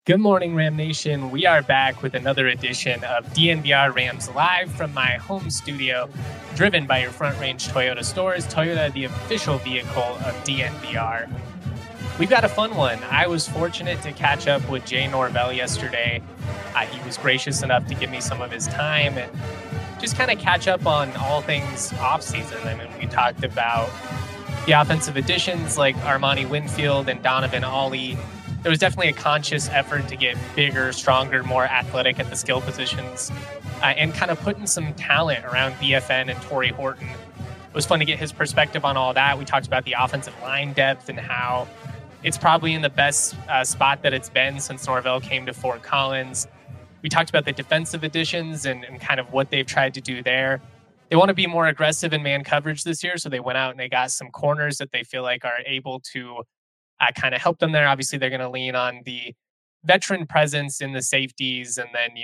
Good morning, Ram Nation. We are back with another edition of DNVR Rams live from my home studio, driven by your Front Range Toyota stores. Toyota, the official vehicle of DNVR. We've got a fun one. I was fortunate to catch up with Jay Norvell yesterday. He was gracious enough to give me some of his time and just kind of catch up on all things offseason. I mean, we talked about the offensive additions like Armani Winfield and Donovan Ollie. There was definitely a conscious effort to get bigger, stronger, more athletic at the skill positions and kind of putting some talent around BFN and Torrey Horton. It was fun to get his perspective on all that. We talked about the offensive line depth and how it's probably in the best spot that it's been since Norvell came to Fort Collins. We talked about the defensive additions and kind of what they've tried to do there. They want to be more aggressive in man coverage this year, so they went out and they got some corners that they feel like are able to kind of help them there. Obviously, they're going to lean on the veteran presence in the safeties and then,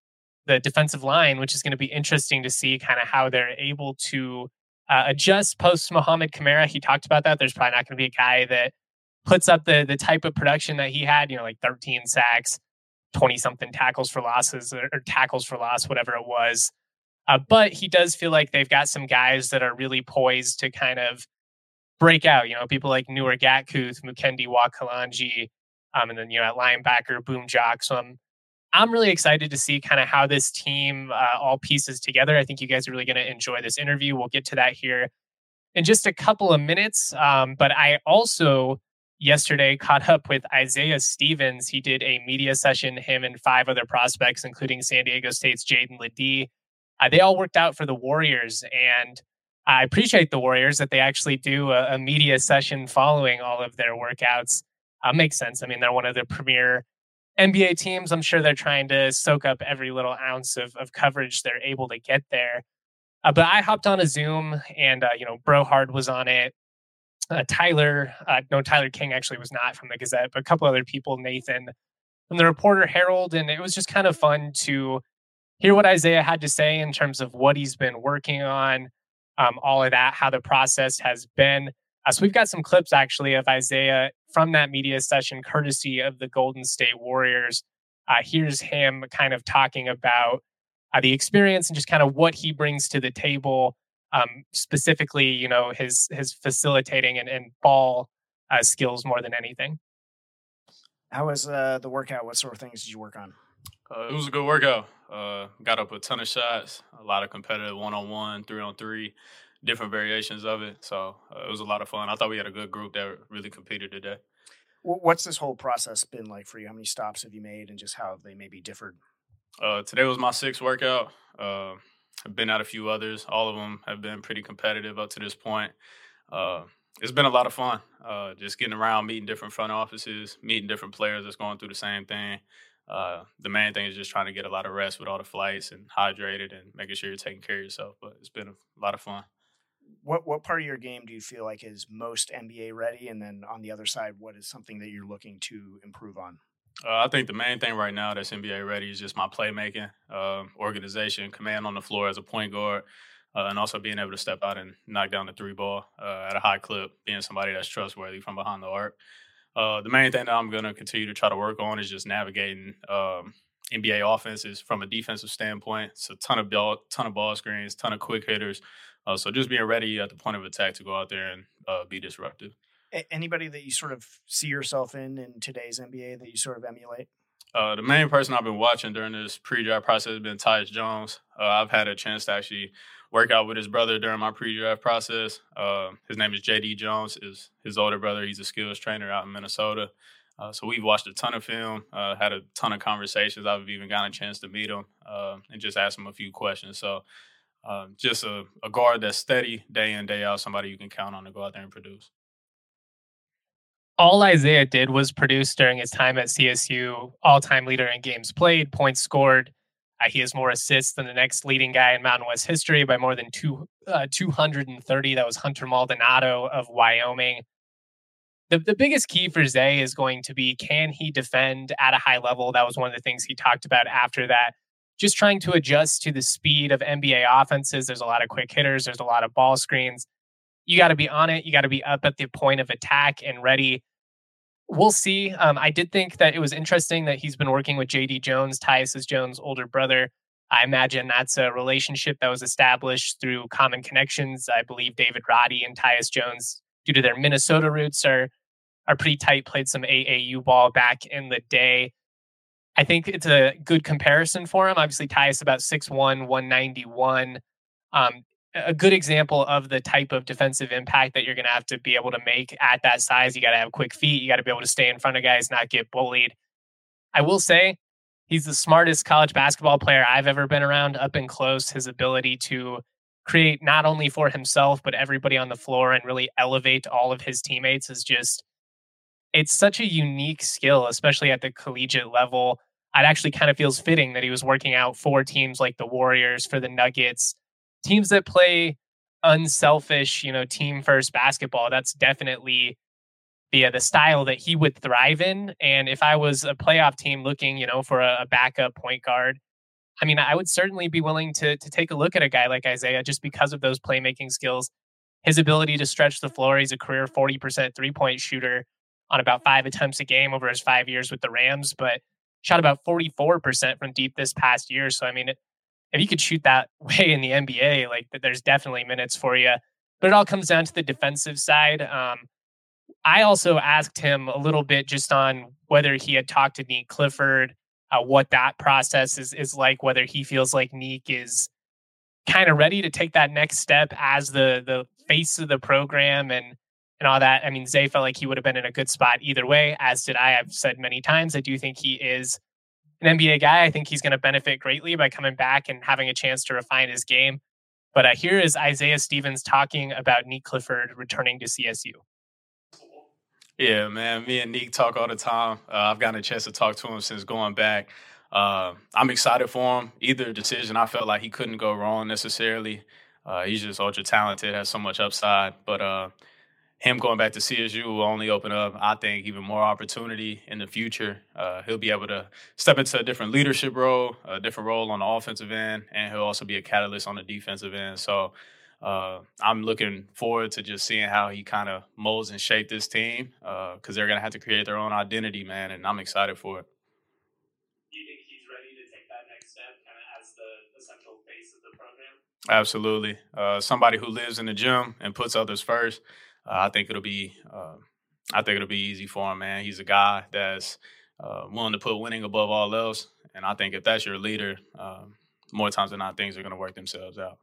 the defensive line, which is going to be interesting to see kind of how they're able to adjust post Mohamed Kamara. He talked about that. There's probably not going to be a guy that puts up the type of production that he had, like 13 sacks, 20-something tackles for losses or tackles for loss, whatever it was. But he does feel like they've got some guys that are really poised to kind of break out, people like Newer Gatkuth, Mukendi Wakalanji, and then, at linebacker, Boom Jock. So I'm really excited to see kind of how this team all pieces together. I think you guys are really going to enjoy this interview. We'll get to that here in just a couple of minutes. But I also yesterday caught up with Isaiah Stevens. He did a media session, him and 5 other prospects, including San Diego State's Jaden Ledee. They all worked out for the Warriors, and I appreciate the Warriors that they actually do a media session following all of their workouts. Makes sense. I mean, they're one of the premier NBA teams. I'm sure they're trying to soak up every little ounce of coverage they're able to get there. But I hopped on a Zoom and, Brohard was on it. Tyler King actually was not from the Gazette, but a couple other people, Nathan from the Reporter Herald. And it was just kind of fun to hear what Isaiah had to say in terms of what he's been working on. All of that, how the process has been. So we've got some clips actually of Isaiah from that media session, courtesy of the Golden State Warriors. Here's him kind of talking about the experience and just kind of what he brings to the table, specifically, his facilitating and ball skills more than anything. How was the workout? What sort of things did you work on? It was a good workout. Got up a ton of shots, a lot of competitive 1-on-1, 3-on-3, different variations of it. So it was a lot of fun. I thought we had a good group that really competed today. What's this whole process been like for you? How many stops have you made and just how they maybe differed? Today was my 6th workout. I've been at a few others. All of them have been pretty competitive up to this point. It's been a lot of fun, just getting around, meeting different front offices, meeting different players that's going through the same thing. The main thing is just trying to get a lot of rest with all the flights and hydrated and making sure you're taking care of yourself. But it's been a lot of fun. What part of your game do you feel like is most NBA ready? And then on the other side, what is something that you're looking to improve on? I think the main thing right now that's NBA ready is just my playmaking, organization, command on the floor as a point guard, and also being able to step out and knock down the 3 ball at a high clip, being somebody that's trustworthy from behind the arc. The main thing that I'm going to continue to try to work on is just navigating NBA offenses from a defensive standpoint. It's a ton of ball screens, ton of quick hitters. So just being ready at the point of attack to go out there and be disruptive. Anybody that you sort of see yourself in today's NBA that you sort of emulate? The main person I've been watching during this pre-draft process has been Tyus Jones. I've had a chance to actually work out with his brother during my pre-draft process. His name is J.D. Jones, is his older brother. He's a skills trainer out in Minnesota. So we've watched a ton of film, had a ton of conversations. I've even gotten a chance to meet him and just ask him a few questions. So just a guard that's steady day in, day out, somebody you can count on to go out there and produce. All Isaiah did was produce during his time at CSU, all-time leader in games played, points scored. He has more assists than the next leading guy in Mountain West history by more than 230. That was Hunter Maldonado of Wyoming. The biggest key for Zay is going to be, can he defend at a high level? That was one of the things he talked about after that. Just trying to adjust to the speed of NBA offenses. There's a lot of quick hitters. There's a lot of ball screens. You got to be on it. You got to be up at the point of attack and ready. We'll see. I did think that it was interesting that he's been working with JD Jones, Tyus Jones' older brother. I imagine that's a relationship that was established through common connections. I believe David Roddy and Tyus Jones, due to their Minnesota roots, are pretty tight, played some AAU ball back in the day. I think it's a good comparison for him. Obviously, Tyus about 6'1", 191. A good example of the type of defensive impact that you're going to have to be able to make at that size. You got to have quick feet. You got to be able to stay in front of guys, not get bullied. I will say he's the smartest college basketball player I've ever been around, up and close. His ability to create not only for himself, but everybody on the floor and really elevate all of his teammates is just, it's such a unique skill, especially at the collegiate level. It actually kind of feels fitting that he was working out for teams like the Warriors, for the Nuggets, teams that play unselfish, team first basketball. That's definitely the style that he would thrive in. And if I was a playoff team looking, for a backup point guard, I mean, I would certainly be willing to take a look at a guy like Isaiah just because of those playmaking skills, his ability to stretch the floor. He's a career 40% three-point shooter on about 5 attempts a game over his 5 years with the Rams, but shot about 44% from deep this past year. So, I mean, if you could shoot that way in the NBA, like, there's definitely minutes for you. But it all comes down to the defensive side. I also asked him a little bit just on whether he had talked to Nique Clifford, what that process is like, whether he feels like Nique is kind of ready to take that next step as the face of the program and all that. I mean, Zay felt like he would have been in a good spot either way, as did I. I've said many times, I do think he is an NBA guy. I think he's going to benefit greatly by coming back and having a chance to refine his game. But here is Isaiah Stevens talking about Nique Clifford returning to CSU. Yeah, man. Me and Nique talk all the time. I've gotten a chance to talk to him since going back. I'm excited for him. Either decision, I felt like he couldn't go wrong necessarily. He's just ultra talented, has so much upside. But him going back to CSU will only open up, I think, even more opportunity in the future. He'll be able to step into a different leadership role, a different role on the offensive end, and he'll also be a catalyst on the defensive end. So I'm looking forward to just seeing how he kind of molds and shapes this team because they're going to have to create their own identity, man, and I'm excited for it. Do you think he's ready to take that next step kind of as the central face of the program? Absolutely. Somebody who lives in the gym and puts others first. I think it'll be easy for him, man. He's a guy that's willing to put winning above all else, and I think if that's your leader, more times than not, things are going to work themselves out.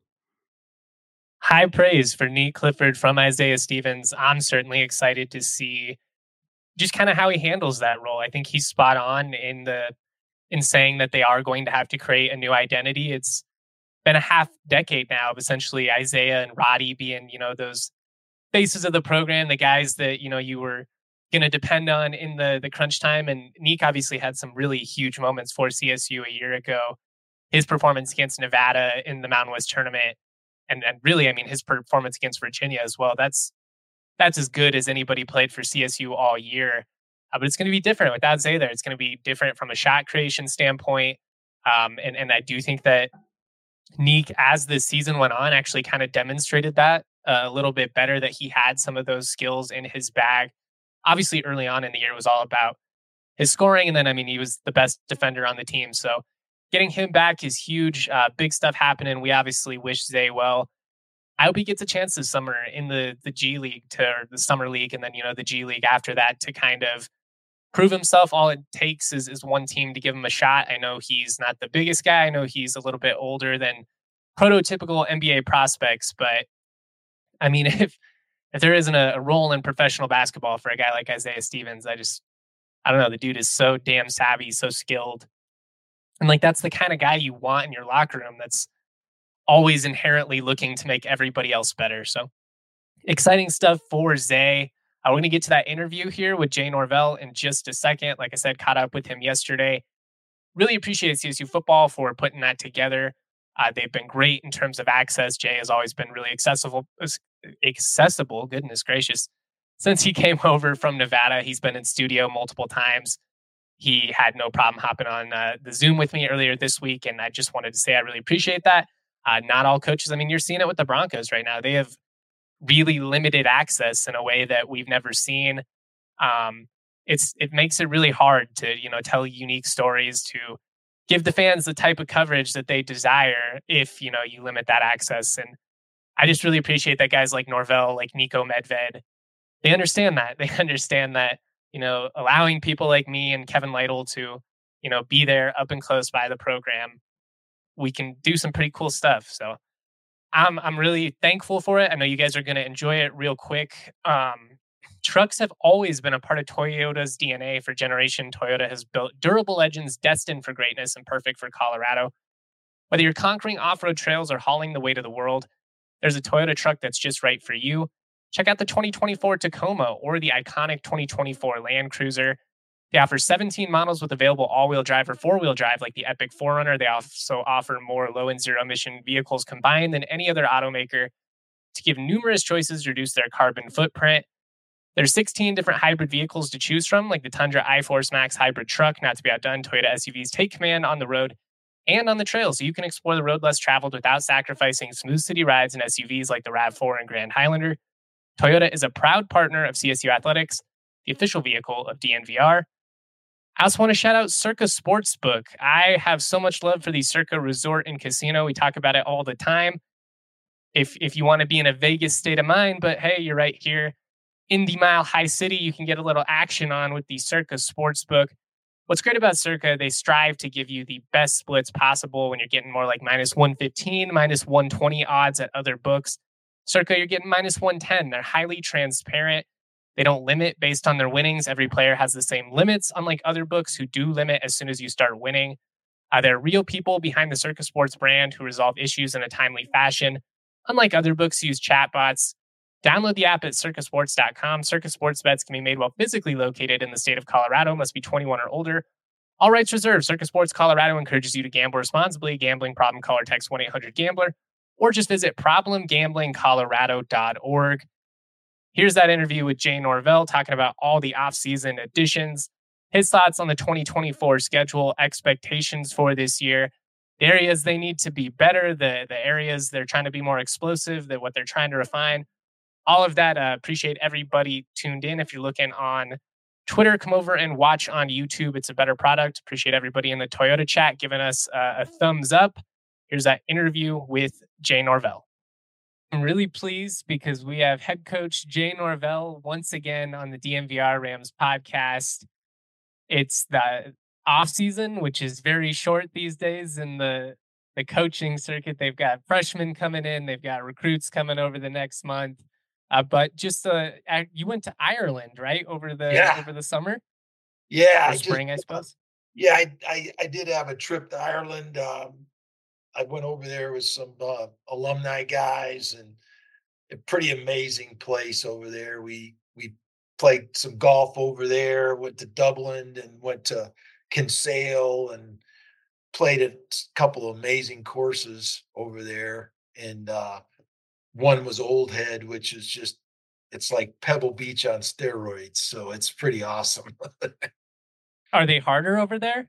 High praise for Nique Clifford from Isaiah Stevens. I'm certainly excited to see just kind of how he handles that role. I think he's spot on in saying that they are going to have to create a new identity. It's been a half decade now of essentially Isaiah and Roddy being, those faces of the program, the guys that, you were going to depend on in the crunch time. And Nique obviously had some really huge moments for CSU a year ago. His performance against Nevada in the Mountain West tournament, and really, I mean, his performance against Virginia as well. That's as good as anybody played for CSU all year. But it's going to be different without Zay there. It's going to be different from a shot creation standpoint. And I do think that Nique, as the season went on, actually kind of demonstrated that a little bit better, that he had some of those skills in his bag. Obviously, early on in the year, it was all about his scoring. And then, I mean, he was the best defender on the team. So getting him back is huge. Big stuff happening. We obviously wish Zay well. I hope he gets a chance this summer in the G League or the Summer League, and then, the G League after that to kind of prove himself. All it takes is one team to give him a shot. I know he's not the biggest guy. I know he's a little bit older than prototypical NBA prospects, but I mean, if there isn't a role in professional basketball for a guy like Isaiah Stevens, I don't know. The dude is so damn savvy, so skilled. And that's the kind of guy you want in your locker room that's always inherently looking to make everybody else better. So exciting stuff for Zay. We're going to get to that interview here with Jay Norvell in just a second. Like I said, caught up with him yesterday. Really appreciate CSU football for putting that together. They've been great in terms of access. Jay has always been really accessible, goodness gracious. Since he came over from Nevada, he's been in studio multiple times. He had no problem hopping on the Zoom with me earlier this week, and I just wanted to say I really appreciate that. Not all coaches, I mean, you're seeing it with the Broncos right now. They have really limited access in a way that we've never seen. it makes it really hard to, tell unique stories, to give the fans the type of coverage that they desire if, you limit that access. And I just really appreciate that guys like Norvell, like Nico Medved, they understand that. They understand that, allowing people like me and Kevin Lytle to, be there up and close by the program, we can do some pretty cool stuff. So I'm really thankful for it. I know you guys are going to enjoy it real quick. Trucks have always been a part of Toyota's DNA for generation. Toyota has built durable engines destined for greatness and perfect for Colorado. Whether you're conquering off-road trails or hauling the weight of the world, there's a Toyota truck that's just right for you. Check out the 2024 Tacoma or the iconic 2024 Land Cruiser. They offer 17 models with available all-wheel drive or four-wheel drive like the Epic 4Runner. They also offer more low and zero-emission vehicles combined than any other automaker to give numerous choices to reduce their carbon footprint. There's 16 different hybrid vehicles to choose from, like the Tundra iForce Max hybrid truck. Not to be outdone, Toyota SUVs take command on the road and on the trail, so you can explore the road less traveled without sacrificing smooth city rides in SUVs like the RAV4 and Grand Highlander. Toyota is a proud partner of CSU Athletics, the official vehicle of DNVR. I also want to shout out Circa Sportsbook. I have so much love for the Circa Resort and Casino. We talk about it all the time. If you want to be in a Vegas state of mind, but hey, you're right here in the Mile High City, you can get a little action on with the Circa Sportsbook. What's great about Circa, they strive to give you the best splits possible when you're getting more like minus 115, minus 120 odds at other books. Circa, you're getting minus 110. They're highly transparent. They don't limit based on their winnings. Every player has the same limits, unlike other books who do limit as soon as you start winning. There are real people behind the Circa Sports brand who resolve issues in a timely fashion. Unlike other books who use chatbots, download the app at circasports.com. Circa Sports bets can be made while physically located in the state of Colorado. Must be 21 or older. All rights reserved. Circa Sports Colorado encourages you to gamble responsibly. Gambling problem, call or text 1-800-GAMBLER or just visit problemgamblingcolorado.org. Here's that interview with Jay Norvell talking about all the off-season additions, his thoughts on the 2024 schedule, expectations for this year, the areas they need to be better, the areas they're trying to be more explosive, what they're trying to refine. All of that. Appreciate everybody tuned in. If you're looking on Twitter, come over and watch on YouTube. It's a better product. Appreciate everybody in the Toyota chat giving us a thumbs up. Here's that interview with Jay Norvell. I'm really pleased because we have head coach Jay Norvell once again on the DNVR Rams podcast. It's the off season, which is very short these days in the coaching circuit. They've got freshmen coming in. They've got recruits coming over the next month. But just you went to Ireland, right, over the summer? Yeah, or spring, I suppose. Yeah, I did have a trip to Ireland. I went over there with some alumni guys, and a pretty amazing place over there. We played some golf over there. Went to Dublin and went to Kinsale and played a couple of amazing courses over there. And one was Old Head, which is just, it's like Pebble Beach on steroids. So it's pretty awesome. Are they harder over there?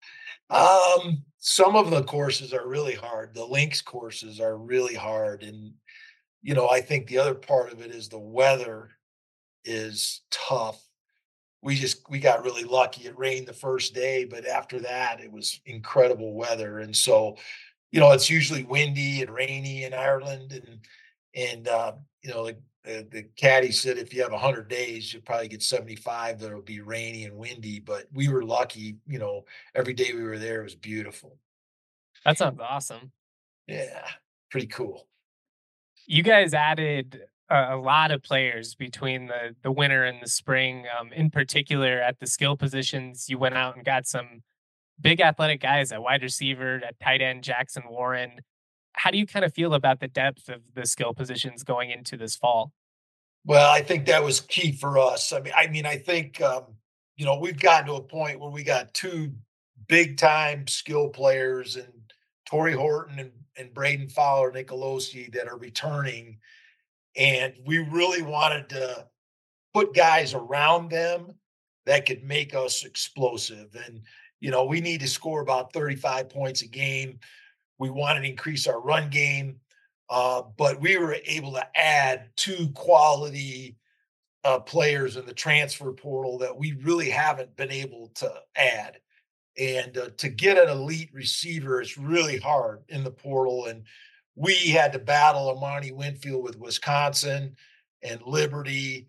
Some of the courses are really hard. The links courses are really hard. And, I think the other part of it is the weather is tough. We got really lucky. It rained the first day, but after that, it was incredible weather. And so, it's usually windy and rainy in Ireland. And the caddy said if you have 100 days, you'll probably get 75 that'll be rainy and windy. But we were lucky, every day we were there, it was beautiful. That sounds awesome. Yeah, pretty cool. You guys added a lot of players between the winter and the spring. In particular, at the skill positions, you went out and got some big athletic guys at wide receiver, at tight end, Jackson Warren. How do you kind of feel about the depth of the skill positions going into this fall? Well, I think that was key for us. I think, we've gotten to a point where we got two big time skill players and Torrey Horton and Braden Fowler Nicolosi that are returning. And we really wanted to put guys around them that could make us explosive. And, we need to score about 35 points a game. We wanted to increase our run game, but we were able to add two quality players in the transfer portal that we really haven't been able to add. And to get an elite receiver is really hard in the portal. And we had to battle Amani Winfield with Wisconsin and Liberty.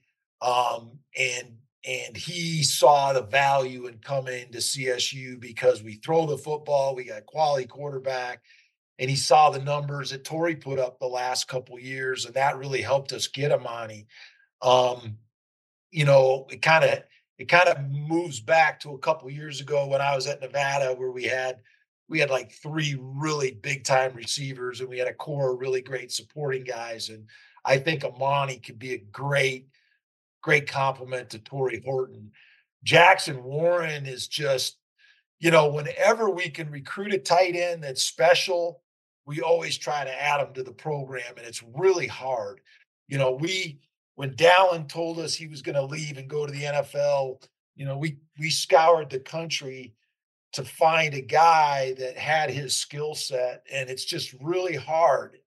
And he saw the value in coming to CSU because we throw the football, we got quality quarterback, and he saw the numbers that Torrey put up the last couple years, and that really helped us get Amani. Um, it kind of moves back to a couple years ago when I was at Nevada, where we had like three really big time receivers, and we had a core of really great supporting guys. And I think Amani could be a great compliment to Torrey Horton. Jackson Warren is just, whenever we can recruit a tight end that's special, we always try to add him to the program, and it's really hard. When Dallin told us he was going to leave and go to the NFL, we scoured the country to find a guy that had his skill set, and it's just really hard.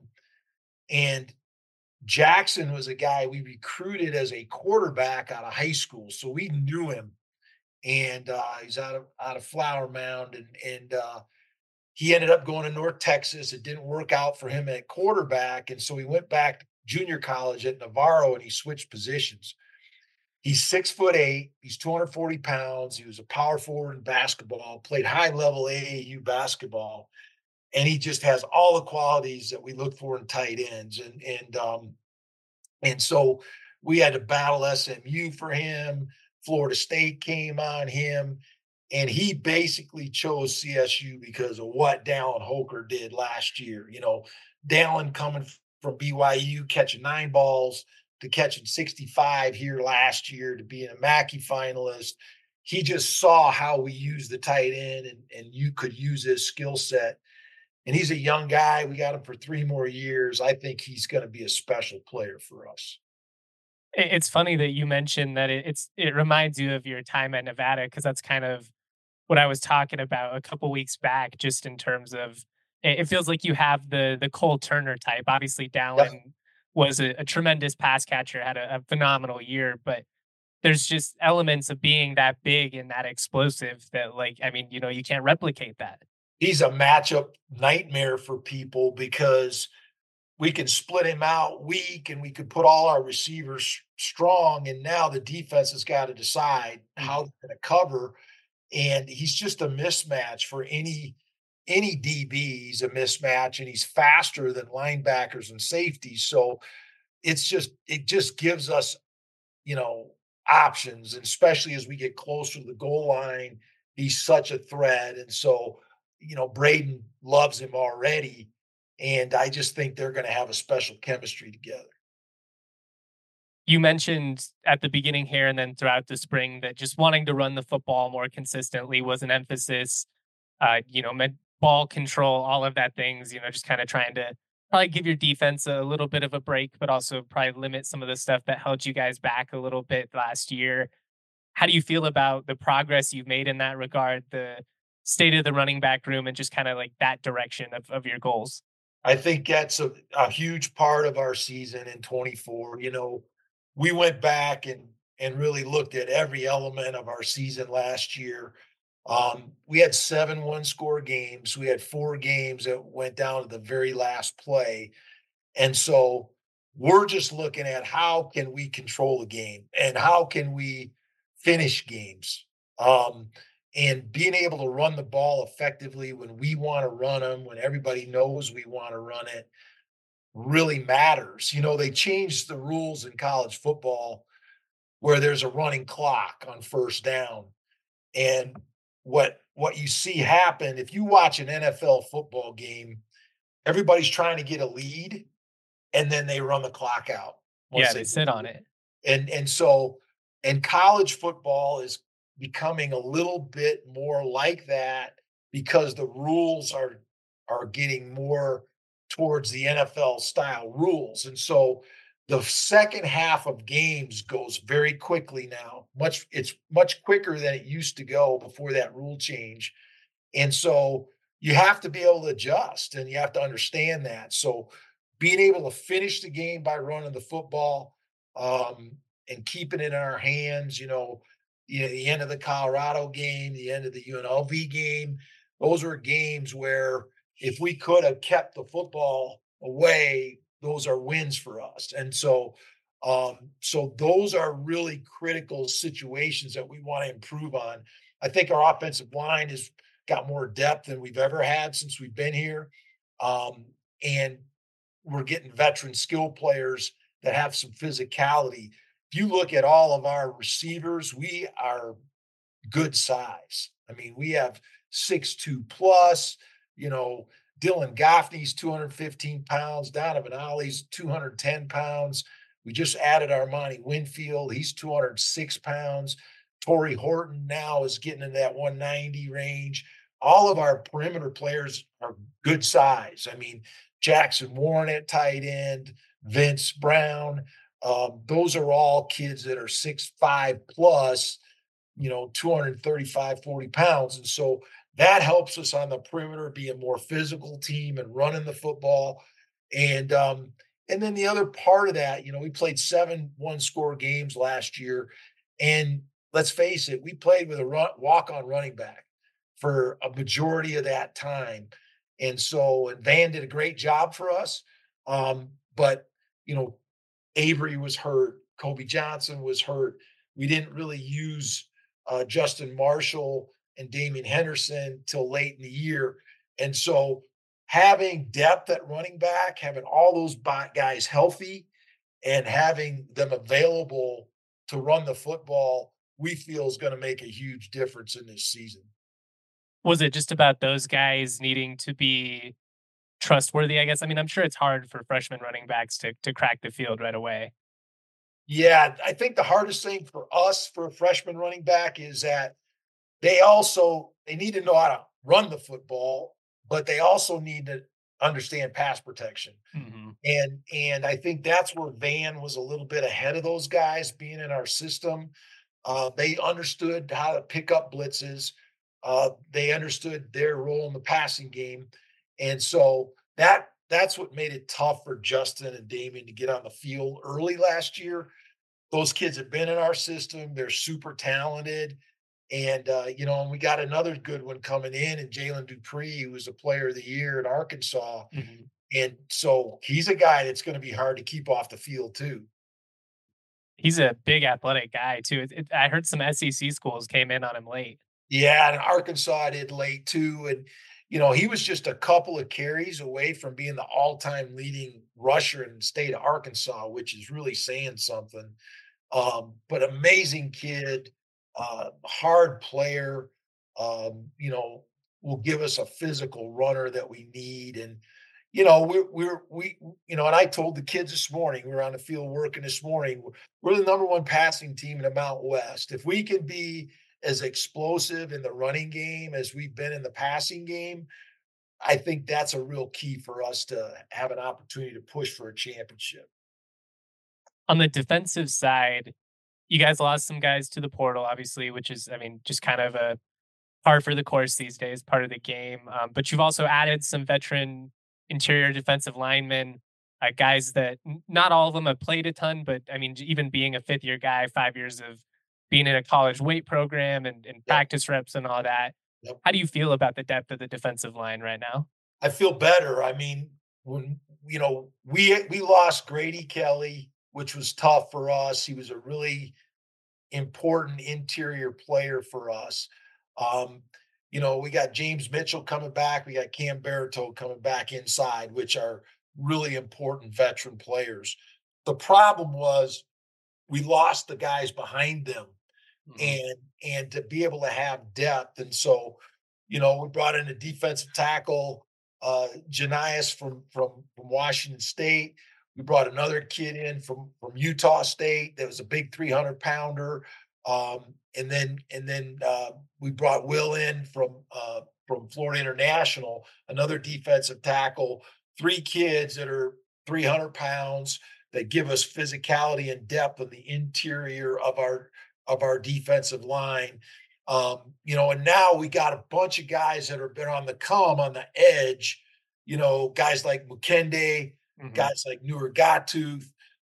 And Jackson was a guy we recruited as a quarterback out of high school, so we knew him. And he's out of Flower Mound, and he ended up going to North Texas. It didn't work out for him at quarterback, and so he went back to junior college at Navarro, and he switched positions. He's 6'8". He's 240 pounds. He was a power forward in basketball, played high level AAU basketball, and he just has all the qualities that we look for in tight ends. And so we had to battle SMU for him. Florida State came on him, and he basically chose CSU because of what Dallin Holker did last year. Dallin coming from BYU, catching 9 balls to catching 65 here last year to being a Mackey finalist. He just saw how we use the tight end, and you could use his skill set. And he's a young guy. We got him for 3 more years. I think he's going to be a special player for us. It's funny that you mentioned that it reminds you of your time at Nevada, because that's kind of what I was talking about a couple weeks back, just in terms of it feels like you have the Cole Turner type. Obviously, Dallin was a tremendous pass catcher, had a phenomenal year, but there's just elements of being that big and that explosive that, you can't replicate that. He's a matchup nightmare for people because we can split him out weak and we could put all our receivers strong. And now the defense has got to decide how they're going to cover. And he's just a mismatch for any DB. He's a mismatch, and he's faster than linebackers and safeties. So it just gives us, options, and especially as we get closer to the goal line, he's such a threat. And so, Braden loves him already. And I just think they're going to have a special chemistry together. You mentioned at the beginning here and then throughout the spring that just wanting to run the football more consistently was an emphasis. Ball control, all of that things, just kind of trying to probably give your defense a little bit of a break, but also probably limit some of the stuff that held you guys back a little bit last year. How do you feel about the progress you've made in that regard, the state of the running back room, and just kind of like that direction of your goals? I think that's a huge part of our season in 24. We went back and really looked at every element of our season last year. We had 7 one-score games. We had 4 games that went down to the very last play. And so we're just looking at how can we control the game and how can we finish games. And being able to run the ball effectively when we want to run them, when everybody knows we want to run it, really matters. They changed the rules in college football where there's a running clock on first down. And what you see happen, if you watch an NFL football game, everybody's trying to get a lead, and then they run the clock out. They sit on it. And college football is becoming a little bit more like that because the rules are getting more towards the NFL style rules. And so the second half of games goes very quickly now. It's much quicker than it used to go before that rule change. And so you have to be able to adjust, and you have to understand that. So being able to finish the game by running the football, and keeping it in our hands, the end of the Colorado game, the end of the UNLV game, those were games where if we could have kept the football away, those are wins for us. And so those are really critical situations that we want to improve on. I think our offensive line has got more depth than we've ever had since we've been here. And we're getting veteran skill players that have some physicality. If you look at all of our receivers, we are good size. I mean, we have 6'2 plus, Dylan Goffney's 215 pounds, Donovan Ollie's 210 pounds. We just added Armani Winfield. He's 206 pounds. Torrey Horton now is getting in that 190 range. All of our perimeter players are good size. I mean, Jackson Warren at tight end, Vince Brown. Those are all kids that are 6'5 plus, 235, 40 pounds. And so that helps us on the perimeter be a more physical team and running the football. And then the other part of that, we played 7 one-score games last year. And let's face it, we played with a walk-on running back for a majority of that time. And Van did a great job for us. But, Avery was hurt. Kobe Johnson was hurt. We didn't really use Justin Marshall and Damian Henderson till late in the year. And so having depth at running back, having all those guys healthy and having them available to run the football, we feel is going to make a huge difference in this season. Was it just about those guys needing to be trustworthy, I guess? I mean, I'm sure it's hard for freshman running backs to crack the field right away. Yeah, I think the hardest thing for us, for a freshman running back, is that they need to know how to run the football, but they also need to understand pass protection. Mm-hmm. And I think that's where Van was a little bit ahead of those guys being in our system. They understood how to pick up blitzes. They understood their role in the passing game. And so that's what made it tough for Justin and Damian to get on the field early last year. Those kids have been in our system. They're super talented. And, and we got another good one coming in Jalen Dupree, who was a player of the year in Arkansas. Mm-hmm. And so he's a guy that's going to be hard to keep off the field too. He's a big athletic guy too. I heard some SEC schools came in on him late. Yeah, and Arkansas did late too. And, he was just a couple of carries away from being the all-time leading rusher in the state of Arkansas, which is really saying something. But amazing kid, hard player, will give us a physical runner that we need. And, and I told the kids this morning, we were on the field working this morning, we're the number 1 passing team in the Mountain West. If we can be as explosive in the running game as we've been in the passing game, I think that's a real key for us to have an opportunity to push for a championship. On the defensive side, you guys lost some guys to the portal, obviously, which is, just kind of a par for the course these days, part of the game. But you've also added some veteran interior defensive linemen, guys that not all of them have played a ton, but even being a 5th-year guy, 5 years of being in a college weight program and practice reps and all that. Yep. How do you feel about the depth of the defensive line right now? I feel better. When, we lost Grady Kelly, which was tough for us. He was a really important interior player for us. We got James Mitchell coming back. We got Cam Baratow coming back inside, which are really important veteran players. The problem was we lost the guys behind them. Mm-hmm. And to be able to have depth. And so, we brought in a defensive tackle, Janias from Washington State. We brought another kid in from Utah State that was a big 300-pounder. And then we brought Will in from Florida International, another defensive tackle, 3 kids that are 300 pounds that give us physicality and depth on the interior of our defensive line. And now we got a bunch of guys that have been on the come on the edge, guys like Mukende, mm-hmm. guys like Newer Gatooth,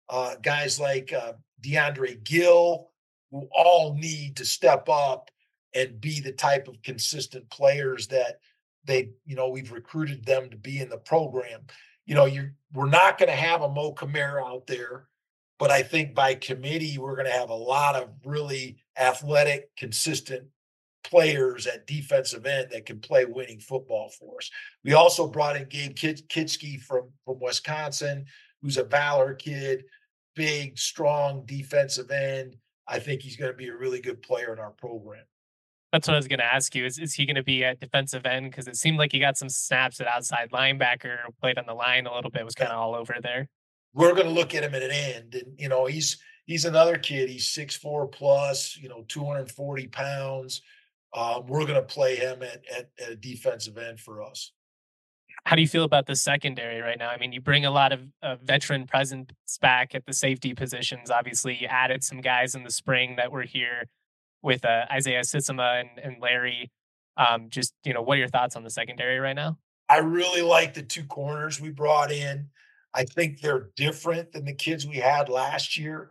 guys like DeAndre Gill, who all need to step up and be the type of consistent players that we've recruited them to be in the program. We're not going to have a Mo Kamara out there, but I think by committee, we're going to have a lot of really athletic, consistent players at defensive end that can play winning football for us. We also brought in Gabe Kitschke from Wisconsin, who's a Valor kid, big, strong defensive end. I think he's going to be a really good player in our program. That's what I was going to ask you. Is he going to be at defensive end? Because it seemed like he got some snaps at outside linebacker, played on the line a little bit, was kind of all over there. We're going to look at him at an end, and he's another kid. He's 6'4" plus, 240 pounds. We're going to play him at a defensive end for us. How do you feel about the secondary right now? I mean, you bring a lot of veteran presence back at the safety positions. Obviously, you added some guys in the spring that were here with Isaiah Sissima and Larry. What are your thoughts on the secondary right now? I really like the two corners we brought in. I think they're different than the kids we had last year.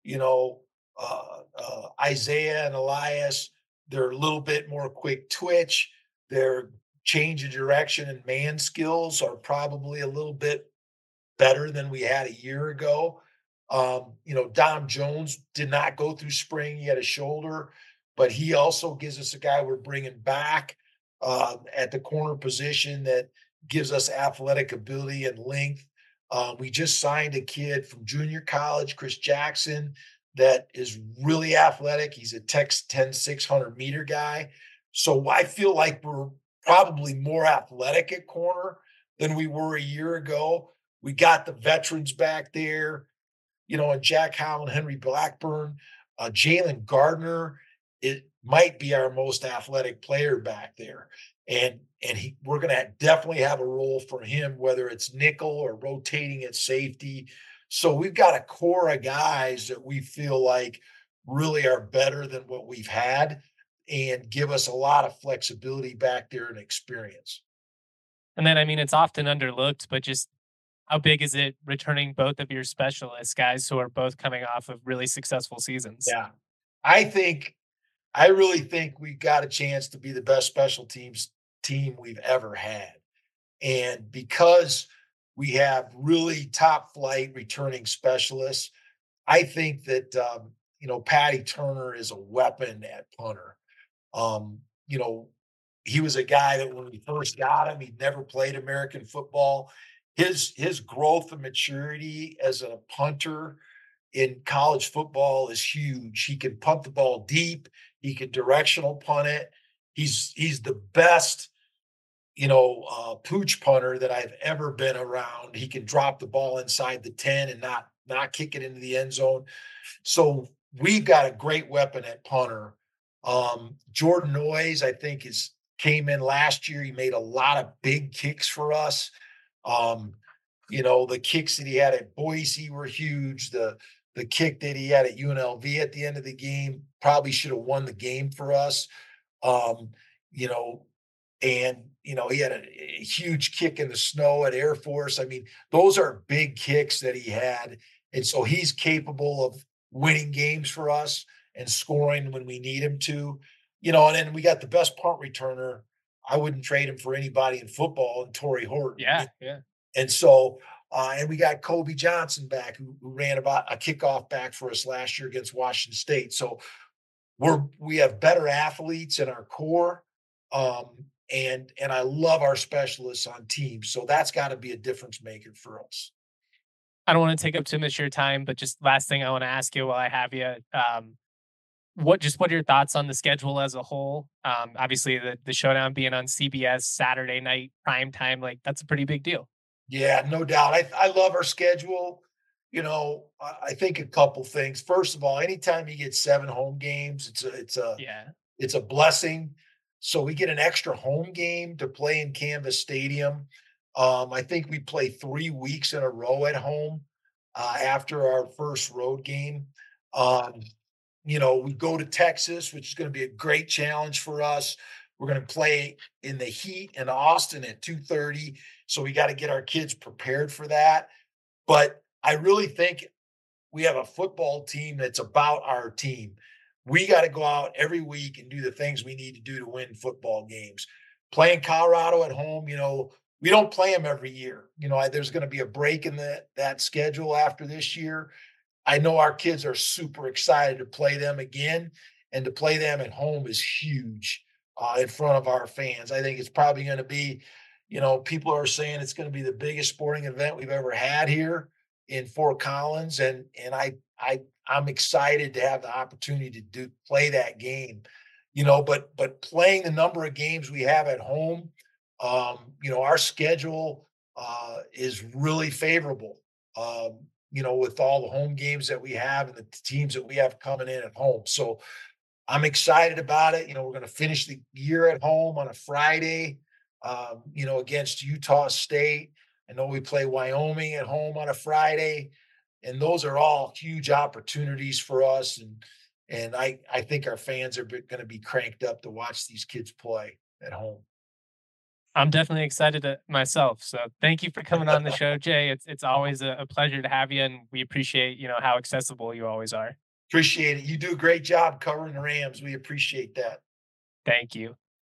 Isaiah and Elias, they're a little bit more quick twitch. Their change of direction and man skills are probably a little bit better than we had a year ago. Dom Jones did not go through spring. He had a shoulder, but he also gives us a guy we're bringing back at the corner position that gives us athletic ability and length. We just signed a kid from junior college, Chris Jackson, that is really athletic. He's a 600 meter guy. So I feel like we're probably more athletic at corner than we were a year ago. We got the veterans back there, and Jack Howland, Henry Blackburn, Jalen Gardner. It might be our most athletic player back there. And we're going to definitely have a role for him, whether it's nickel or rotating at safety. So we've got a core of guys that we feel like really are better than what we've had and give us a lot of flexibility back there and experience. And then, I mean, it's often underlooked, but just how big is it returning both of your specialists, guys who are both coming off of really successful seasons? Yeah. I really think we got a chance to be the best special teams team we've ever had. And because we have really top flight returning specialists, I think that, Patty Turner is a weapon at punter. He was a guy that when we first got him, he'd never played American football. His growth and maturity as a punter in college football is huge. He can punt the ball deep. He can directional punt it. He's the best, pooch punter that I've ever been around. He can drop the ball inside the 10 and not kick it into the end zone. So we've got a great weapon at punter. Jordan Noyes, I think, came in last year. He made a lot of big kicks for us. The kicks that he had at Boise were huge. The kick that he had at UNLV at the end of the game probably should have won the game for us. He had a huge kick in the snow at Air Force. I mean, those are big kicks that he had. And so he's capable of winning games for us and scoring when we need him to, and then we got the best punt returner. I wouldn't trade him for anybody in football, and Torrey Horton. Yeah. And so, and we got Kobe Johnson back, who ran about a kickoff back for us last year against Washington State. So we have better athletes in our core. And I love our specialists on teams. So that's got to be a difference maker for us. I don't want to take up too much of your time, but just last thing I want to ask you while I have you, what are your thoughts on the schedule as a whole? Obviously the showdown being on CBS Saturday night prime time, like that's a pretty big deal. Yeah, no doubt. I love our schedule. I think a couple things. First of all, anytime you get 7 home games, it's a blessing. So we get an extra home game to play in Canvas Stadium. I think we play 3 weeks in a row at home after our first road game. We go to Texas, which is going to be a great challenge for us. We're going to play in the heat in Austin at 2:30. So we got to get our kids prepared for that. But I really think we have a football team that's about our team. We got to go out every week and do the things we need to do to win football games. Playing Colorado at home, we don't play them every year. There's going to be a break in that schedule after this year. I know our kids are super excited to play them again, and to play them at home is huge in front of our fans. I think it's probably going to be, people are saying it's going to be the biggest sporting event we've ever had here in Fort Collins, and I'm excited to have the opportunity to play that game. But playing the number of games we have at home, our schedule is really favorable. With all the home games that we have and the teams that we have coming in at home. So I'm excited about it. We're going to finish the year at home on a Friday, against Utah State. I know we play Wyoming at home on a Friday, and those are all huge opportunities for us. And I think our fans are going to be cranked up to watch these kids play at home. I'm definitely excited myself. So thank you for coming on the show, Jay. It's always a pleasure to have you, and we appreciate, how accessible you always are. Appreciate it. You do a great job covering the Rams. We appreciate that. Thank you.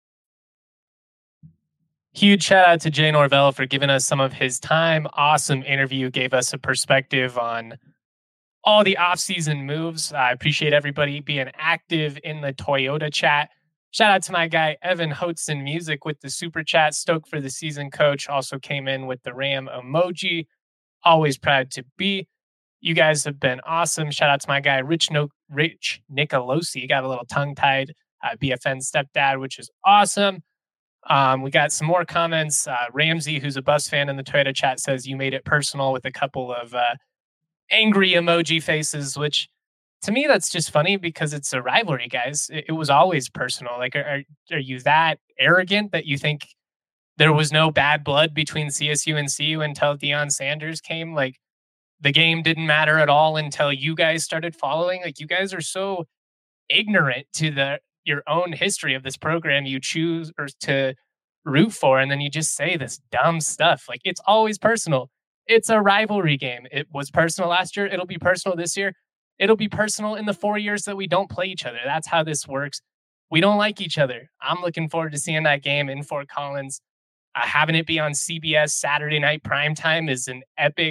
Huge shout out to Jay Norvell for giving us some of his time. Awesome interview. Gave us a perspective on all the off-season moves. I appreciate everybody being active in the Toyota chat. Shout out to my guy, Evan Hotzen Music, with the super chat. Stoked for the season, coach. Also came in with the Ram emoji. Always proud to be. You guys have been awesome. Shout out to my guy, Rich Nicolosi. Got a little tongue-tied. BFN stepdad, which is awesome. We got some more comments. Ramsey, who's a Buffs fan in the Toyota chat, says you made it personal with a couple of angry emoji faces, which to me, that's just funny because it's a rivalry, guys. It was always personal. Like, are you that arrogant that you think there was no bad blood between CSU and CU until Deion Sanders came? Like, the game didn't matter at all until you guys started following. Like, you guys are so ignorant to your own history of this program you choose or to root for, and then you just say this dumb stuff. Like, it's always personal. It's a rivalry game. It was personal last year. It'll be personal this year. It'll be personal in the 4 years that we don't play each other. That's how this works. We don't like each other. I'm looking forward to seeing that game in Fort Collins. Having it be on CBS Saturday night primetime is an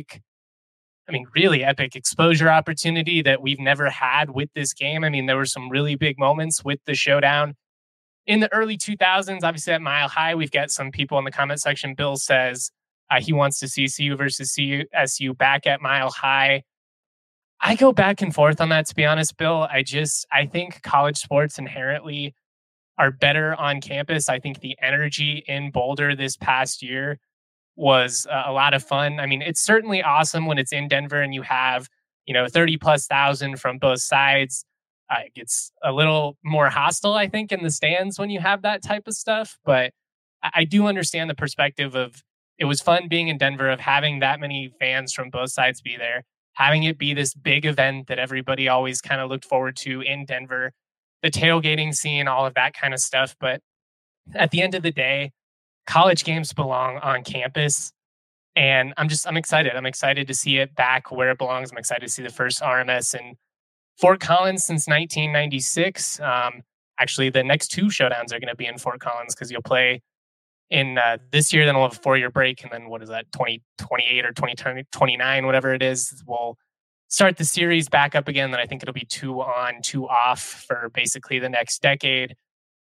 really epic exposure opportunity that we've never had with this game. I mean, there were some really big moments with the showdown in the early 2000s. Obviously at Mile High, we've got some people in the comment section. Bill says he wants to see CU versus CSU back at Mile High. I go back and forth on that, to be honest, Bill. I think college sports inherently are better on campus. I think the energy in Boulder this past year was a lot of fun. I mean, it's certainly awesome when it's in Denver and you have, 30,000+ from both sides. It gets a little more hostile, I think, in the stands when you have that type of stuff. But I do understand the perspective of it was fun being in Denver, of having that many fans from both sides be there, having it be this big event that everybody always kind of looked forward to in Denver, the tailgating scene, all of that kind of stuff. But at the end of the day, college games belong on campus. And I'm excited. I'm excited to see it back where it belongs. I'm excited to see the first RMS in Fort Collins since 1996. Actually, the next two showdowns are going to be in Fort Collins because you'll play in this year, then we'll have a 4-year break. And then what is that, 2028 or 2029, whatever it is, we'll start the series back up again. Then I think it'll be 2 on, 2 off for basically the next decade.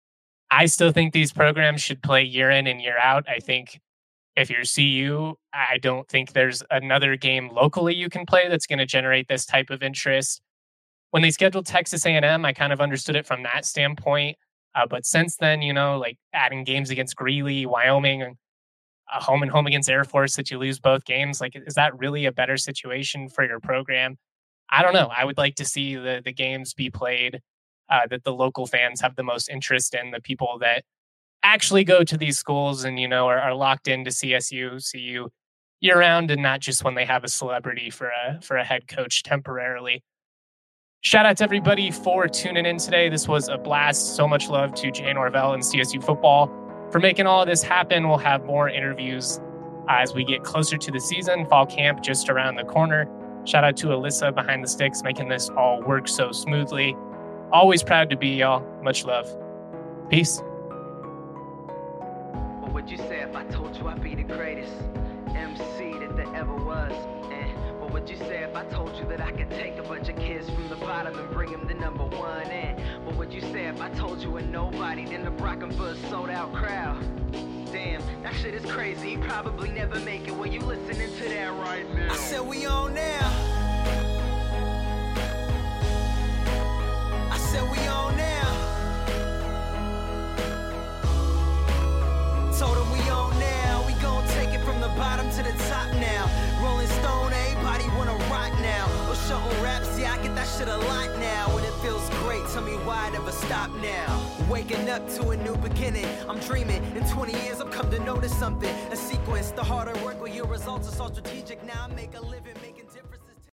I still think these programs should play year in and year out. I think if you're CU, I don't think there's another game locally you can play that's going to generate this type of interest. When they scheduled Texas A&M, I kind of understood it from that standpoint. But since then, like adding games against Greeley, Wyoming, a home and home against Air Force that you lose both games, like, is that really a better situation for your program? I don't know. I would like to see the games be played that the local fans have the most interest in, the people that actually go to these schools and, are locked into CSU, CU year round, and not just when they have a celebrity for a head coach temporarily. Shout out to everybody for tuning in today. This was a blast. So much love to Jay Norvell and CSU football for making all of this happen. We'll have more interviews as we get closer to the season. Fall camp just around the corner. Shout out to Alyssa behind the sticks, making this all work so smoothly. Always proud to be y'all. Much love. Peace. What would you say if I told you I'd be the greatest MC that there ever was? What would you say if I told you that I could take a bunch of kids from the bottom and bring them to number one? What would you say if I told you a nobody, then the Brockenbush sold out crowd? Damn, that shit is crazy. You probably never make it when you listening to that right now. I said we on now. I said we on now. Told him we on now. We gon' take it from the bottom to the top now. Rolling Stone, everybody wanna rock now. Or shutting raps, yeah, I get that shit a lot now. And it feels great, tell me why I never stop now. Waking up to a new beginning, I'm dreaming. In 20 years, I've come to notice something. A sequence, the harder work with your results is all strategic. Now I make a living.